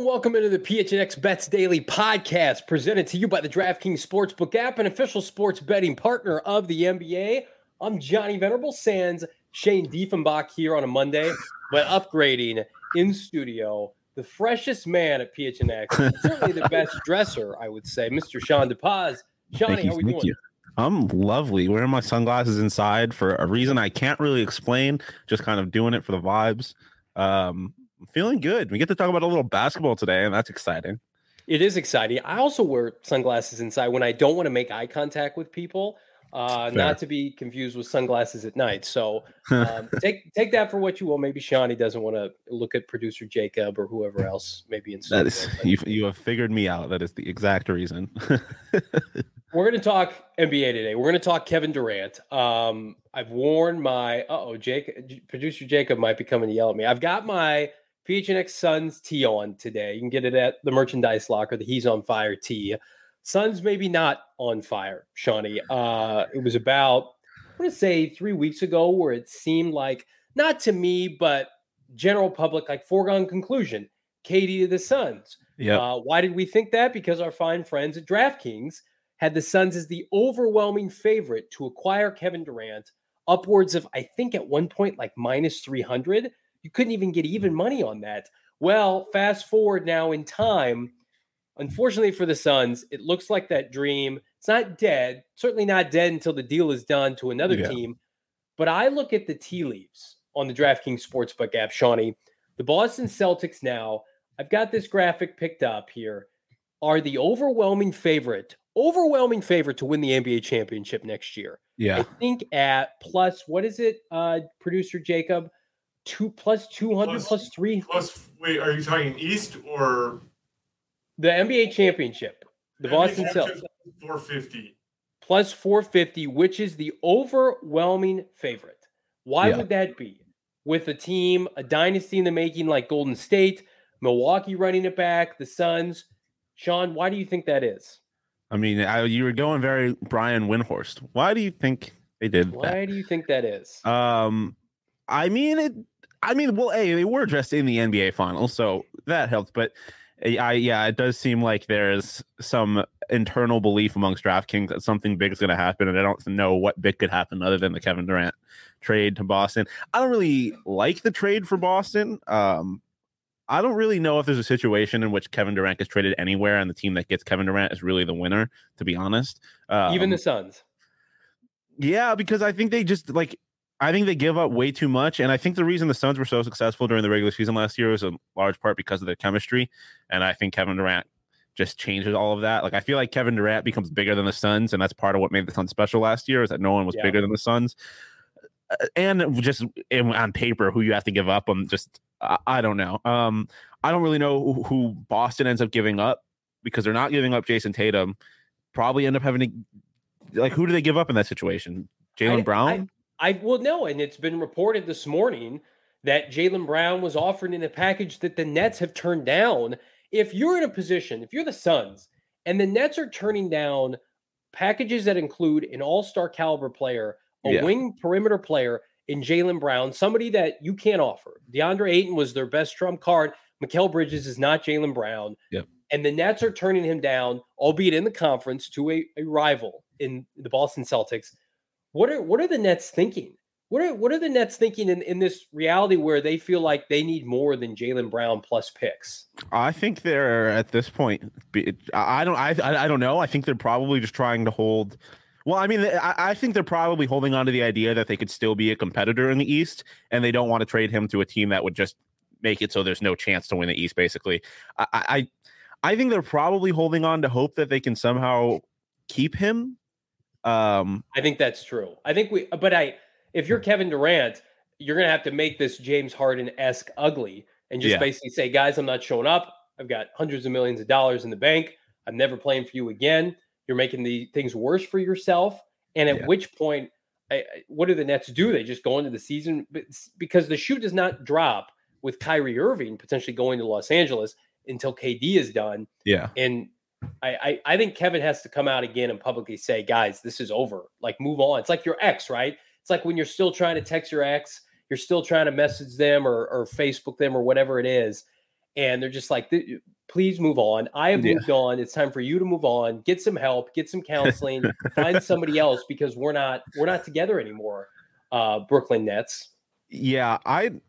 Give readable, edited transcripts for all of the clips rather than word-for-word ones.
welcome into the PHNX Bets Daily podcast, presented to you by the DraftKings Sportsbook app, an official sports betting partner of the NBA. I'm Johnny Venerable, sans Shane Diefenbach here on a Monday, but upgrading in studio, the freshest man at PHNX, certainly the best dresser, I would say, Mr. Sean DePaz. Shawnee, how are we doing? You. I'm lovely. Wearing my sunglasses inside for a reason I can't really explain, just kind of doing it for the vibes. I'm feeling good. We get to talk about a little basketball today, and that's exciting. It is exciting. I also wear sunglasses inside when I don't want to make eye contact with people, not to be confused with sunglasses at night. So take that for what you will. Maybe Shawnee doesn't want to look at producer Jacob or whoever else maybe in studio. That is, you have figured me out. That is the exact reason. We're going to talk NBA today. We're going to talk Kevin Durant. I've worn my producer Jacob might be coming to yell at me. I've got my PHNX Suns tee on today. You can get it at the merchandise locker, the He's on Fire tee. Suns maybe not on fire, Shawnee. It was about, I want to say 3 weeks ago, where it seemed like, not to me, but general public, like foregone conclusion, KD to the Suns. Yeah. Why did we think that? Because our fine friends at DraftKings had the Suns as the overwhelming favorite to acquire Kevin Durant, upwards of, I think at one point, like minus 300. You couldn't even get even money on that. Well, fast forward now in time. Unfortunately for the Suns, it looks like that dream, it's not dead, certainly not dead until the deal is done to another team. But I look at the tea leaves on the DraftKings Sportsbook app, Shawnee. The Boston Celtics now, I've got this graphic picked up here, are the overwhelming favorite to win the NBA championship next year. Yeah. I think at plus, what is it, producer Jacob? Plus 200, plus 3. Wait, are you talking East or? The NBA championship. The Boston Celtics. 450. Plus 450, which is the overwhelming favorite. Why would that be? With a team, a dynasty in the making like Golden State, Milwaukee running it back, the Suns. Sean, why do you think that is? I mean, you were going very Brian Windhorst. Why do you think they did that? Why do you think that is? Well, they were dressed in the NBA Finals, so that helped. But it does seem like there's some internal belief amongst DraftKings that something big is going to happen, and I don't know what big could happen other than the Kevin Durant trade to Boston. I don't really like the trade for Boston. I don't really know if there's a situation in which Kevin Durant gets traded anywhere, and the team that gets Kevin Durant is really the winner, to be honest. Even the Suns. Yeah, because I think they just I think they give up way too much. And I think the reason the Suns were so successful during the regular season last year was in large part because of their chemistry. And I think Kevin Durant just changes all of that. I feel like Kevin Durant becomes bigger than the Suns. And that's part of what made the Suns special last year, is that no one was bigger than the Suns. And just on paper, who you have to give up on, I don't know. I don't really know who Boston ends up giving up, because they're not giving up Jason Tatum. Probably end up having to, who do they give up in that situation? Jaylen Brown? No, and it's been reported this morning that Jaylen Brown was offered in a package that the Nets have turned down. If you're in a position, if you're the Suns, and the Nets are turning down packages that include an all-star caliber player, a wing perimeter player in Jaylen Brown, somebody that you can't offer. DeAndre Ayton was their best trump card. Mikal Bridges is not Jaylen Brown. Yep. And the Nets are turning him down, albeit in the conference, to a rival in the Boston Celtics. What are the Nets thinking? What are the Nets thinking in this reality where they feel like they need more than Jaylen Brown plus picks? I think they're at this point. I don't know. I think they're probably just trying to hold. Well, I mean, I think they're probably holding on to the idea that they could still be a competitor in the East, and they don't want to trade him to a team that would just make it so there's no chance to win the East. Basically, I think they're probably holding on to hope that they can somehow keep him. I think that's true. If you're Kevin Durant, you're going to have to make this James Harden-esque ugly and just basically say, guys, I'm not showing up. I've got hundreds of millions of dollars in the bank. I'm never playing for you again. You're making the things worse for yourself. And at which point, what do the Nets do? They just go into the season because the shoe does not drop with Kyrie Irving potentially going to Los Angeles until KD is done. Yeah. And I think Kevin has to come out again and publicly say, guys, this is over. Move on. It's like your ex, right? It's like when you're still trying to text your ex, you're still trying to message them or Facebook them or whatever it is. And they're just like, please move on. I have Yeah. moved on. It's time for you to move on. Get some help. Get some counseling. Find somebody else because we're not together anymore. Brooklyn Nets. Yeah,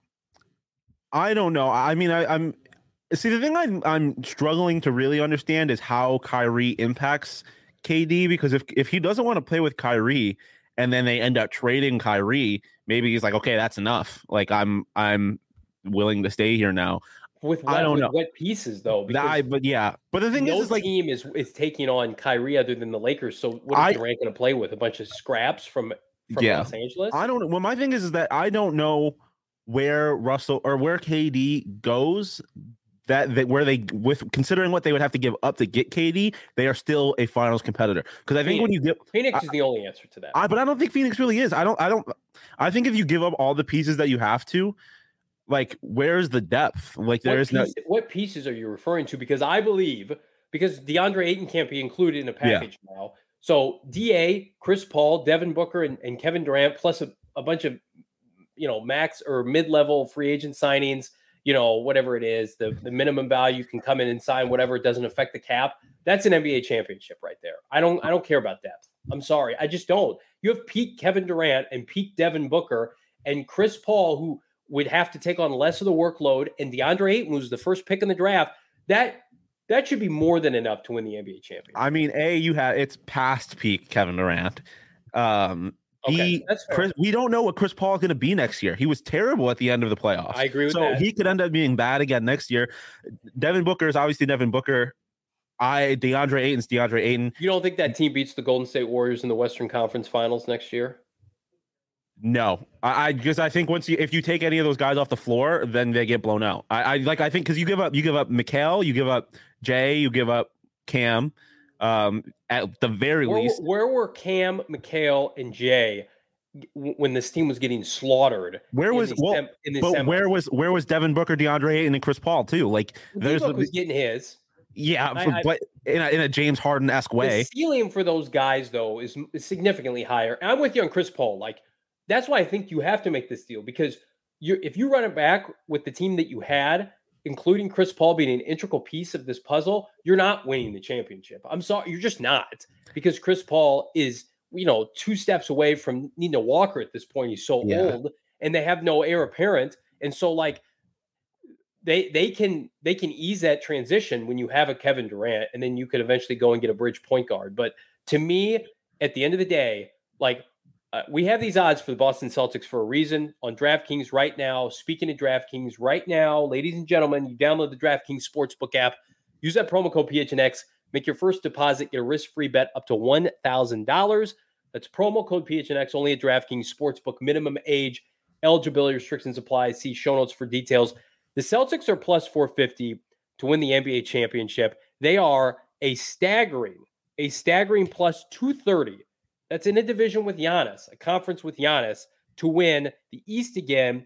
I don't know. I mean, I'm see the thing I'm struggling to really understand is how Kyrie impacts KD, because if he doesn't want to play with Kyrie and then they end up trading Kyrie, maybe he's like, okay, that's enough. Like I'm willing to stay here now. With I don't know. what pieces though? Because But the thing no is like team is taking on Kyrie other than the Lakers. So what is Durant going to play with? A bunch of scraps from Los Angeles? I don't know. Well, my thing is that I don't know where Russell or where KD goes. That where they, with considering what they would have to give up to get KD, they are still a finals competitor. Because I think when you get Phoenix is the only answer to that. But I don't think Phoenix really is. I think if you give up all the pieces that you have to, like, where's the depth? Like, what pieces are you referring to? Because I believe DeAndre Ayton can't be included in a package now. So DA, Chris Paul, Devin Booker, and Kevin Durant, plus a bunch of max or mid-level free agent signings. Whatever it is, the minimum value can come in and sign whatever. It doesn't affect the cap. That's an NBA championship right there. I don't care about depth. I'm sorry. I just don't. You have peak Kevin Durant and peak Devin Booker and Chris Paul, who would have to take on less of the workload, and DeAndre Ayton, who's the first pick in the draft. That should be more than enough to win the NBA championship. I mean, it's past peak Kevin Durant. Okay, we don't know what Chris Paul is going to be next year. He was terrible at the end of the playoffs. I agree with that. So he could end up being bad again next year. Devin Booker is obviously Devin Booker. DeAndre Ayton's DeAndre Ayton. You don't think that team beats the Golden State Warriors in the Western Conference Finals next year? No, because I think if you take any of those guys off the floor, then they get blown out. I think because you give up Mikal, you give up Jay, you give up Cam. At the very least, where were Cam, Mikal, and Jay when this team was getting slaughtered? Where was Devin Booker, DeAndre Ayton, and Chris Paul too? Like was getting his. Yeah, but in a James Harden-esque way. The ceiling for those guys though is significantly higher. And I'm with you on Chris Paul. Like that's why I think you have to make this deal, because if you run it back with the team that you had, including Chris Paul being an integral piece of this puzzle, you're not winning the championship. I'm sorry, you're just not, because Chris Paul is, 2 steps away from needing a walker at this point. He's so old, and they have no heir apparent. And so like they can ease that transition when you have a Kevin Durant, and then you could eventually go and get a bridge point guard. But to me, at the end of the day, like we have these odds for the Boston Celtics for a reason on DraftKings right now. Speaking of DraftKings right now, ladies and gentlemen, you download the DraftKings Sportsbook app. Use that promo code PHNX. Make your first deposit. Get a risk-free bet up to $1,000. That's promo code PHNX only at DraftKings Sportsbook. Minimum age, eligibility restrictions apply. See show notes for details. The Celtics are plus 450 to win the NBA championship. They are a staggering plus 230. That's in a division with Giannis, a conference with Giannis, to win the East again.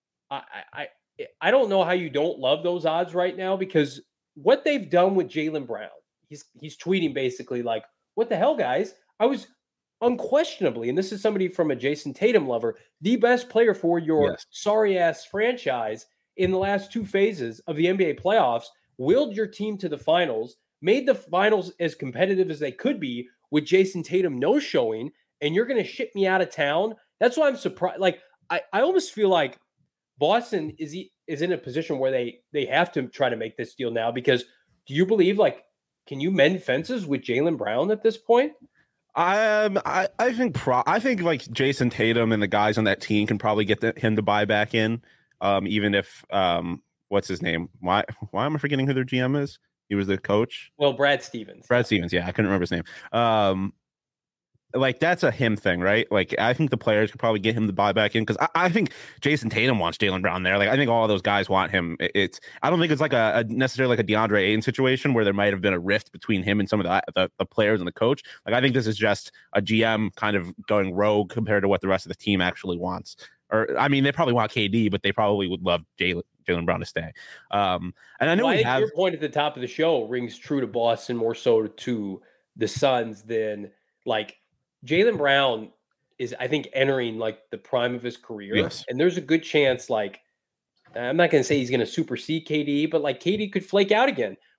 I don't know how you don't love those odds right now, because what they've done with Jaylen Brown, he's tweeting basically like, what the hell, guys? I was unquestionably, and this is somebody from a Jason Tatum lover, the best player for your sorry-ass franchise in the last 2 phases of the NBA playoffs, willed your team to the finals, made the finals as competitive as they could be, with Jason Tatum no-showing, and you're going to ship me out of town? That's why I'm surprised. Like, I almost feel like Boston is in a position where they have to try to make this deal now, because do you believe, like, can you mend fences with Jaylen Brown at this point? I think like Jason Tatum and the guys on that team can probably get him to buy back in, even if what's his name? Why am I forgetting who their GM is? He was the coach. Well, Brad Stevens. Yeah, I couldn't remember his name. Like that's a him thing, right? Like I think the players could probably get him to buy back in, because I think Jason Tatum wants Jaylen Brown there. Like I think all of those guys want him. I don't think it's like a necessarily like a DeAndre Ayton situation where there might have been a rift between him and some of the players and the coach. Like I think this is just a GM kind of going rogue compared to what the rest of the team actually wants. Or I mean, they probably want KD, but they probably would love Jaylen Brown to stay. And I know your point at the top of the show rings true to Boston more so to the Suns than like Jaylen Brown is, I think, entering like the prime of his career. Yes. And there's a good chance, like, I'm not going to say he's going to supersede KD, but like KD could flake out again.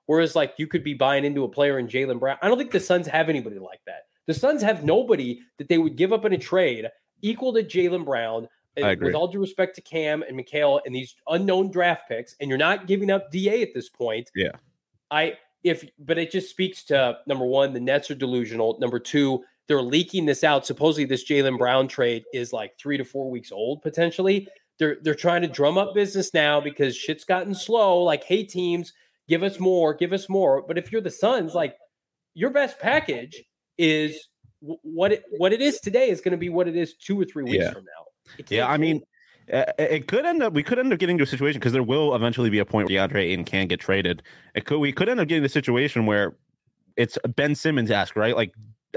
Whereas like you could be buying into a player in Jaylen Brown. I don't think the Suns have anybody like that. The Suns have nobody that they would give up in a trade equal to Jaylen Brown. I agree. With all due respect to Cam and Mikal and these unknown draft picks, and you're not giving up DA at this point. Yeah. But it just speaks to, number one, the Nets are delusional. Number two, they're leaking this out. Supposedly this Jaylen Brown trade is like 3 to 4 weeks old, potentially. They're trying to drum up business now because shit's gotten slow. Like, hey, teams, give us more. But if you're the Suns, like, your best package is what it is today is going to be what it is 2 or 3 weeks from now. Yeah, I mean, we could end up getting to a situation, because there will eventually be a point where DeAndre Ayton can get traded. We could end up getting the situation where it's Ben Simmons-esque, right? Like,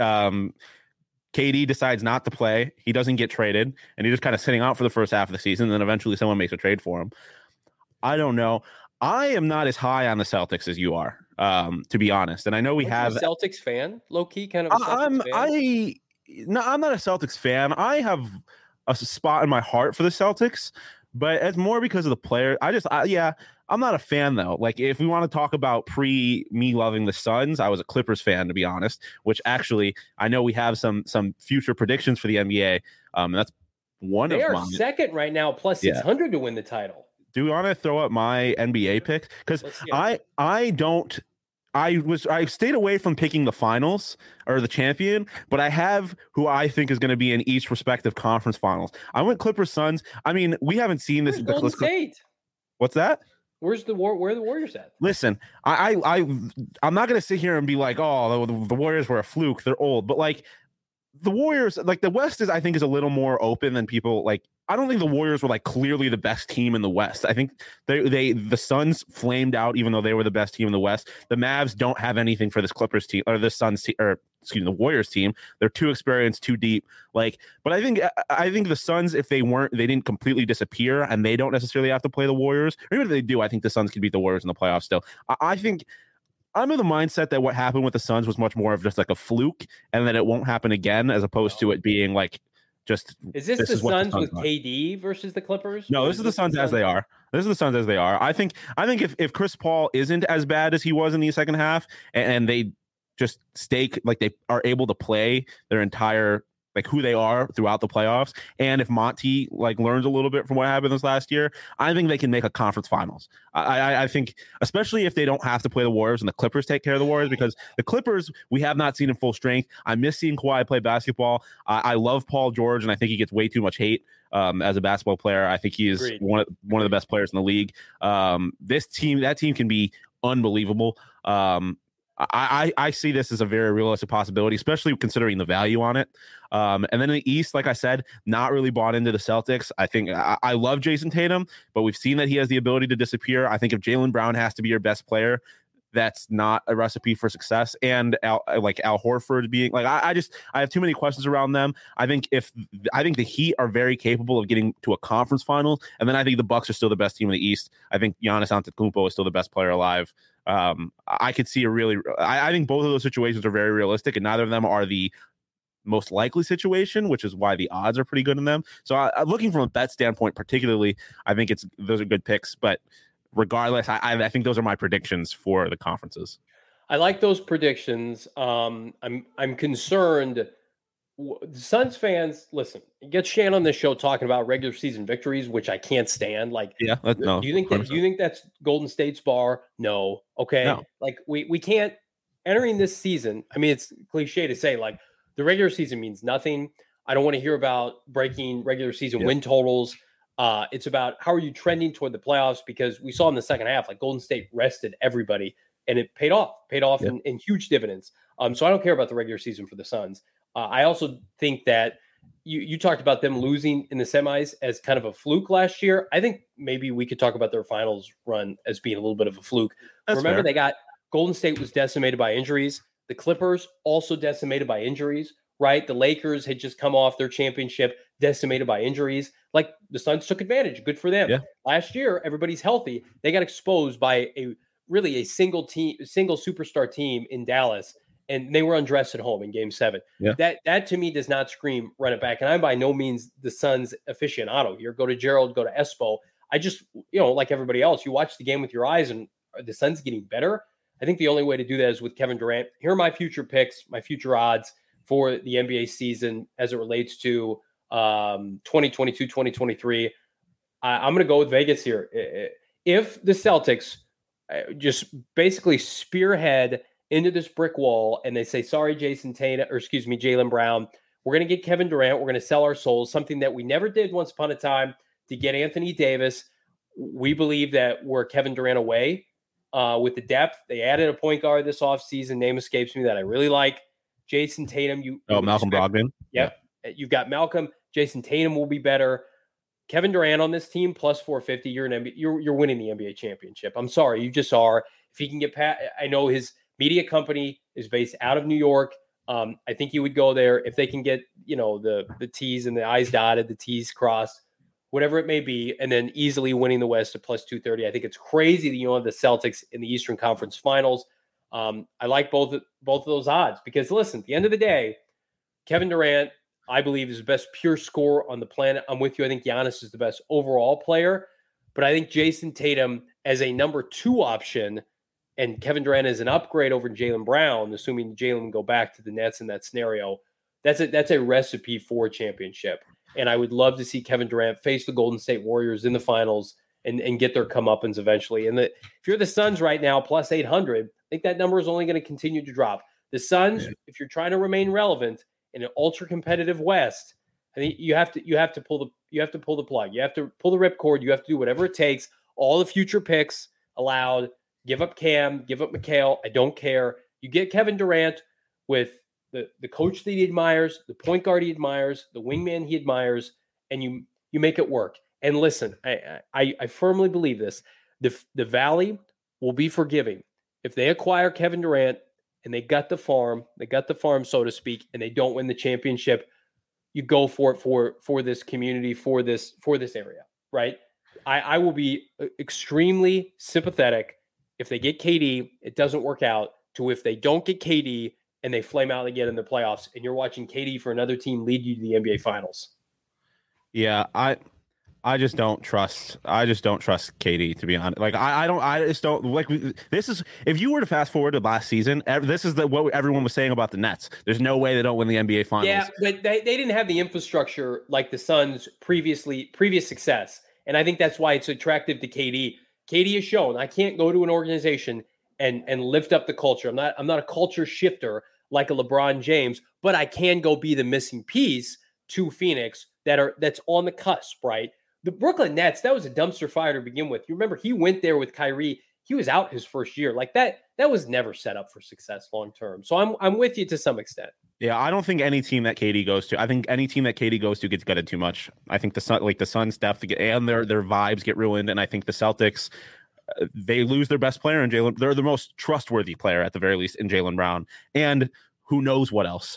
KD decides not to play, he doesn't get traded, and he's just kind of sitting out for the first half of the season, and then eventually someone makes a trade for him. I don't know. I am not as high on the Celtics as you are, to be honest. And I know we have a Celtics fan, low key kind of. I'm not a Celtics fan. I have a spot in my heart for the Celtics, but it's more because of the player. I'm not a fan though. Like, if we want to talk about me loving the Suns, I was a Clippers fan, to be honest, which actually I know we have some future predictions for the NBA. And that's one of mine. They are second right now, plus 600 to win the title. Do we want to throw up my NBA pick? Because I stayed away from picking the finals or the champion, but I have who I think is going to be in each respective conference finals. I went Clippers Suns. I mean, we haven't seen this. Golden State. What's that? Where are the Warriors at? Listen, I'm not going to sit here and be like, oh, the Warriors were a fluke. They're old, but like the Warriors, like the West is a little more open than people like. I don't think the Warriors were like clearly the best team in the West. I think the Suns flamed out even though they were the best team in the West. The Mavs don't have anything for this Clippers team or the Suns team, or excuse me, the Warriors team. They're too experienced, too deep. Like, but I think the Suns, if they didn't completely disappear and they don't necessarily have to play the Warriors, or even if they do, I think the Suns can beat the Warriors in the playoffs still. I think I'm in the mindset that what happened with the Suns was much more of just like a fluke, and that it won't happen again, as opposed to it being like. Is this the Suns with KD versus the Clippers? No, this is the Suns as they are. This is the Suns as they are. I think if Chris Paul isn't as bad as he was in the second half, and they just stay like they are able to play their entire like who they are throughout the playoffs, and if Monty like learns a little bit from what happened this last year, I think they can make a conference finals. I think, especially if they don't have to play the Warriors and the Clippers take care of the Warriors, because the Clippers we have not seen in full strength. I miss seeing Kawhi play basketball. I love Paul George, and I think he gets way too much hate as a basketball player. I think he is one of the best players in the league. That team can be unbelievable. I see this as a very realistic possibility, especially considering the value on it. And then in the East, like I said, not really bought into the Celtics. I think I love Jason Tatum, but we've seen that he has the ability to disappear. I think if Jaylen Brown has to be your best player, that's not a recipe for success. And Al Horford being like, I have too many questions around them. I think the Heat are very capable of getting to a conference final, and then I think the Bucks are still the best team in the East. I think Giannis Antetokounmpo is still the best player alive. I could see I think both of those situations are very realistic, and neither of them are the most likely situation, which is why the odds are pretty good in them. So looking from a bet standpoint, particularly, I think those are good picks. But regardless, I think those are my predictions for the conferences. I like those predictions. I'm concerned. Suns fans, listen, get Shan on this show talking about regular season victories, which I can't stand. Like, yeah, no. Do you think that's Golden State's bar? No. Okay. No. Like we can't entering this season. I mean, it's cliche to say like the regular season means nothing. I don't want to hear about breaking regular season win totals. It's about how are you trending toward the playoffs, because we saw in the second half, like Golden State rested everybody and it paid off in huge dividends. So I don't care about the regular season for the Suns. I also think that you talked about them losing in the semis as kind of a fluke last year. I think maybe we could talk about their finals run as being a little bit of a fluke. That's Remember, fair. Golden State was decimated by injuries. The Clippers also decimated by injuries, right? The Lakers had just come off their championship, decimated by injuries. Like the Suns took advantage. Good for them. Yeah. Last year, everybody's healthy. They got exposed by a single superstar team in Dallas. And they were undressed at home in Game 7. Yeah. That to me does not scream run it back. And I'm by no means the Suns aficionado here. Go to Gerald, go to Espo. I just, like everybody else, you watch the game with your eyes, and are the Suns getting better? I think the only way to do that is with Kevin Durant. Here are my future picks, my future odds for the NBA season as it relates to 2022, 2023. I'm going to go with Vegas here. If the Celtics just basically spearhead into this brick wall and they say, sorry, Jaylen Brown, we're going to get Kevin Durant. We're going to sell our souls, something that we never did once upon a time to get Anthony Davis. We believe that we're Kevin Durant away with the depth. They added a point guard this offseason. Name escapes me that I really like. Jason Tatum. Malcolm Brogdon. Yep. Yeah. You've got Malcolm. Jason Tatum will be better. Kevin Durant on this team plus 450. You're winning the NBA championship. I'm sorry, you just are. If he can get past, I know his media company is based out of New York. I think he would go there if they can get the T's and the I's dotted, the T's crossed, whatever it may be, and then easily winning the West at plus 230. I think it's crazy that have the Celtics in the Eastern Conference Finals. I like both of those odds because listen, at the end of the day, Kevin Durant, I believe, is the best pure scorer on the planet. I'm with you. I think Giannis is the best overall player, but I think Jason Tatum as a number 2 option and Kevin Durant as an upgrade over Jaylen Brown, assuming Jaylen go back to the Nets in that scenario, that's a recipe for a championship. And I would love to see Kevin Durant face the Golden State Warriors in the finals and get their comeuppance eventually. And if you're the Suns right now, plus 800, I think that number is only going to continue to drop. The Suns, if you're trying to remain relevant in an ultra competitive West, I think you have to pull the plug. You have to pull the ripcord. You have to do whatever it takes. All the future picks allowed. Give up Cam. Give up Mikal. I don't care. You get Kevin Durant with the coach that he admires, the point guard he admires, the wingman he admires, and you make it work. And listen, I firmly believe this. The Valley will be forgiving if they acquire Kevin Durant and they got the farm, so to speak, and they don't win the championship. You go for it for this community, for this area, right? I will be extremely sympathetic if they get KD, it doesn't work out, to if they don't get KD and they flame out again in the playoffs, and you're watching KD for another team lead you to the NBA Finals. Yeah, I just don't trust KD, to be honest. Like I just don't like this is if you were to fast forward to last season, this is what everyone was saying about the Nets. There's no way they don't win the NBA Finals. Yeah, but they didn't have the infrastructure like the Suns previous success. And I think that's why it's attractive to KD. KD has shown I can't go to an organization and lift up the culture. I'm not a culture shifter like a LeBron James, but I can go be the missing piece to Phoenix that's on the cusp, right? The Brooklyn Nets, that was a dumpster fire to begin with. You remember he went there with Kyrie. He was out his first year. Like that was never set up for success long term. So I'm with you to some extent. Yeah, I don't think any team that KD goes to. I think any team that KD goes to gets gutted too much. I think the Suns depth and their vibes get ruined, and I think the Celtics they lose their best player in Jaylen. They're the most trustworthy player at the very least in Jaylen Brown, and who knows what else.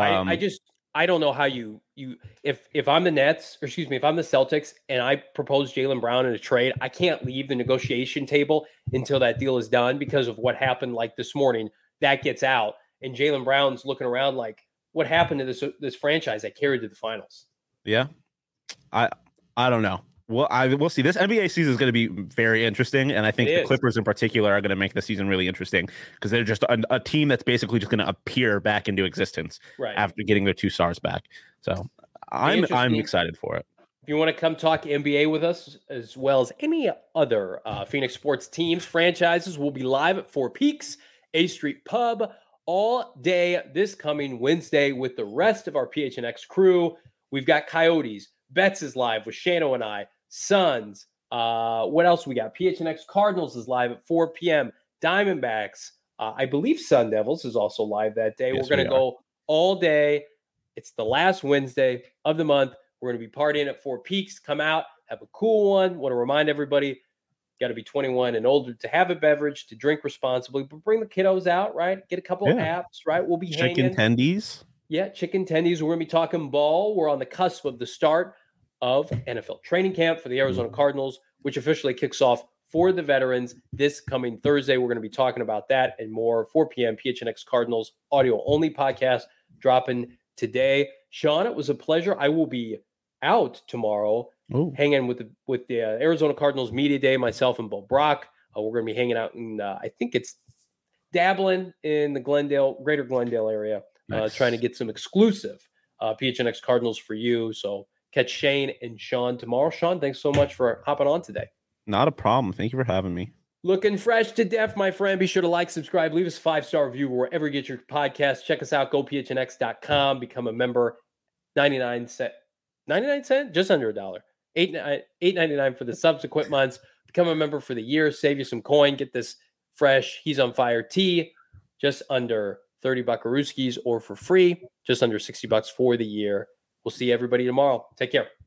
I don't know how you if I'm the Nets, or excuse me, if I'm the Celtics and I propose Jaylen Brown in a trade, I can't leave the negotiation table until that deal is done because of what happened like this morning. That gets out, and Jaylen Brown's looking around like, what happened to this franchise that carried to the finals? Yeah, I don't know. Well, we'll see. This NBA season is going to be very interesting, and I think the Clippers in particular are going to make the season really interesting because they're just a team that's basically just going to appear back into existence after getting their 2 stars back. So I'm excited for it. If you want to come talk NBA with us, as well as any other Phoenix sports teams, franchises, will be live at Four Peaks, A Street Pub, all day this coming Wednesday with the rest of our PHNX crew. We've got Coyotes. Betts is live with Shano and I. Suns. What else we got? PHNX Cardinals is live at 4 p.m. Diamondbacks. I believe Sun Devils is also live that day. Yes, we're going to go all day. It's the last Wednesday of the month. We're going to be partying at Four Peaks. Come out, have a cool one. Want to remind everybody, got to be 21 and older to have a beverage, to drink responsibly, but bring the kiddos out, right? Get a couple of apps, right? We'll be chicken tendies. Yeah, chicken tendies. We're going to be talking ball. We're on the cusp of the start of NFL training camp for the Arizona Cardinals, which officially kicks off for the veterans this coming Thursday. We're going to be talking about that and more. 4 p.m. PHNX Cardinals audio only podcast dropping today. Sean, it was a pleasure. I will be out tomorrow hanging with the Arizona Cardinals media day, myself and Bo Brock. We're going to be hanging out in, I think it's dabbling in the greater Glendale area, Nice. trying to get some exclusive PHNX Cardinals for you. So catch Shane and Sean tomorrow. Sean, thanks so much for hopping on today. Not a problem. Thank you for having me. Looking fresh to death, my friend. Be sure to like, subscribe, leave us a 5-star review wherever you get your podcast. Check us out, gophnx.com. Become a member. 99 cents, just under $1. $8.99 for the subsequent months. Become a member for the year. Save you some coin. Get this fresh He's on Fire tee, just under 30 buckarooskies, or for free, just under $60 for the year. We'll see everybody tomorrow. Take care.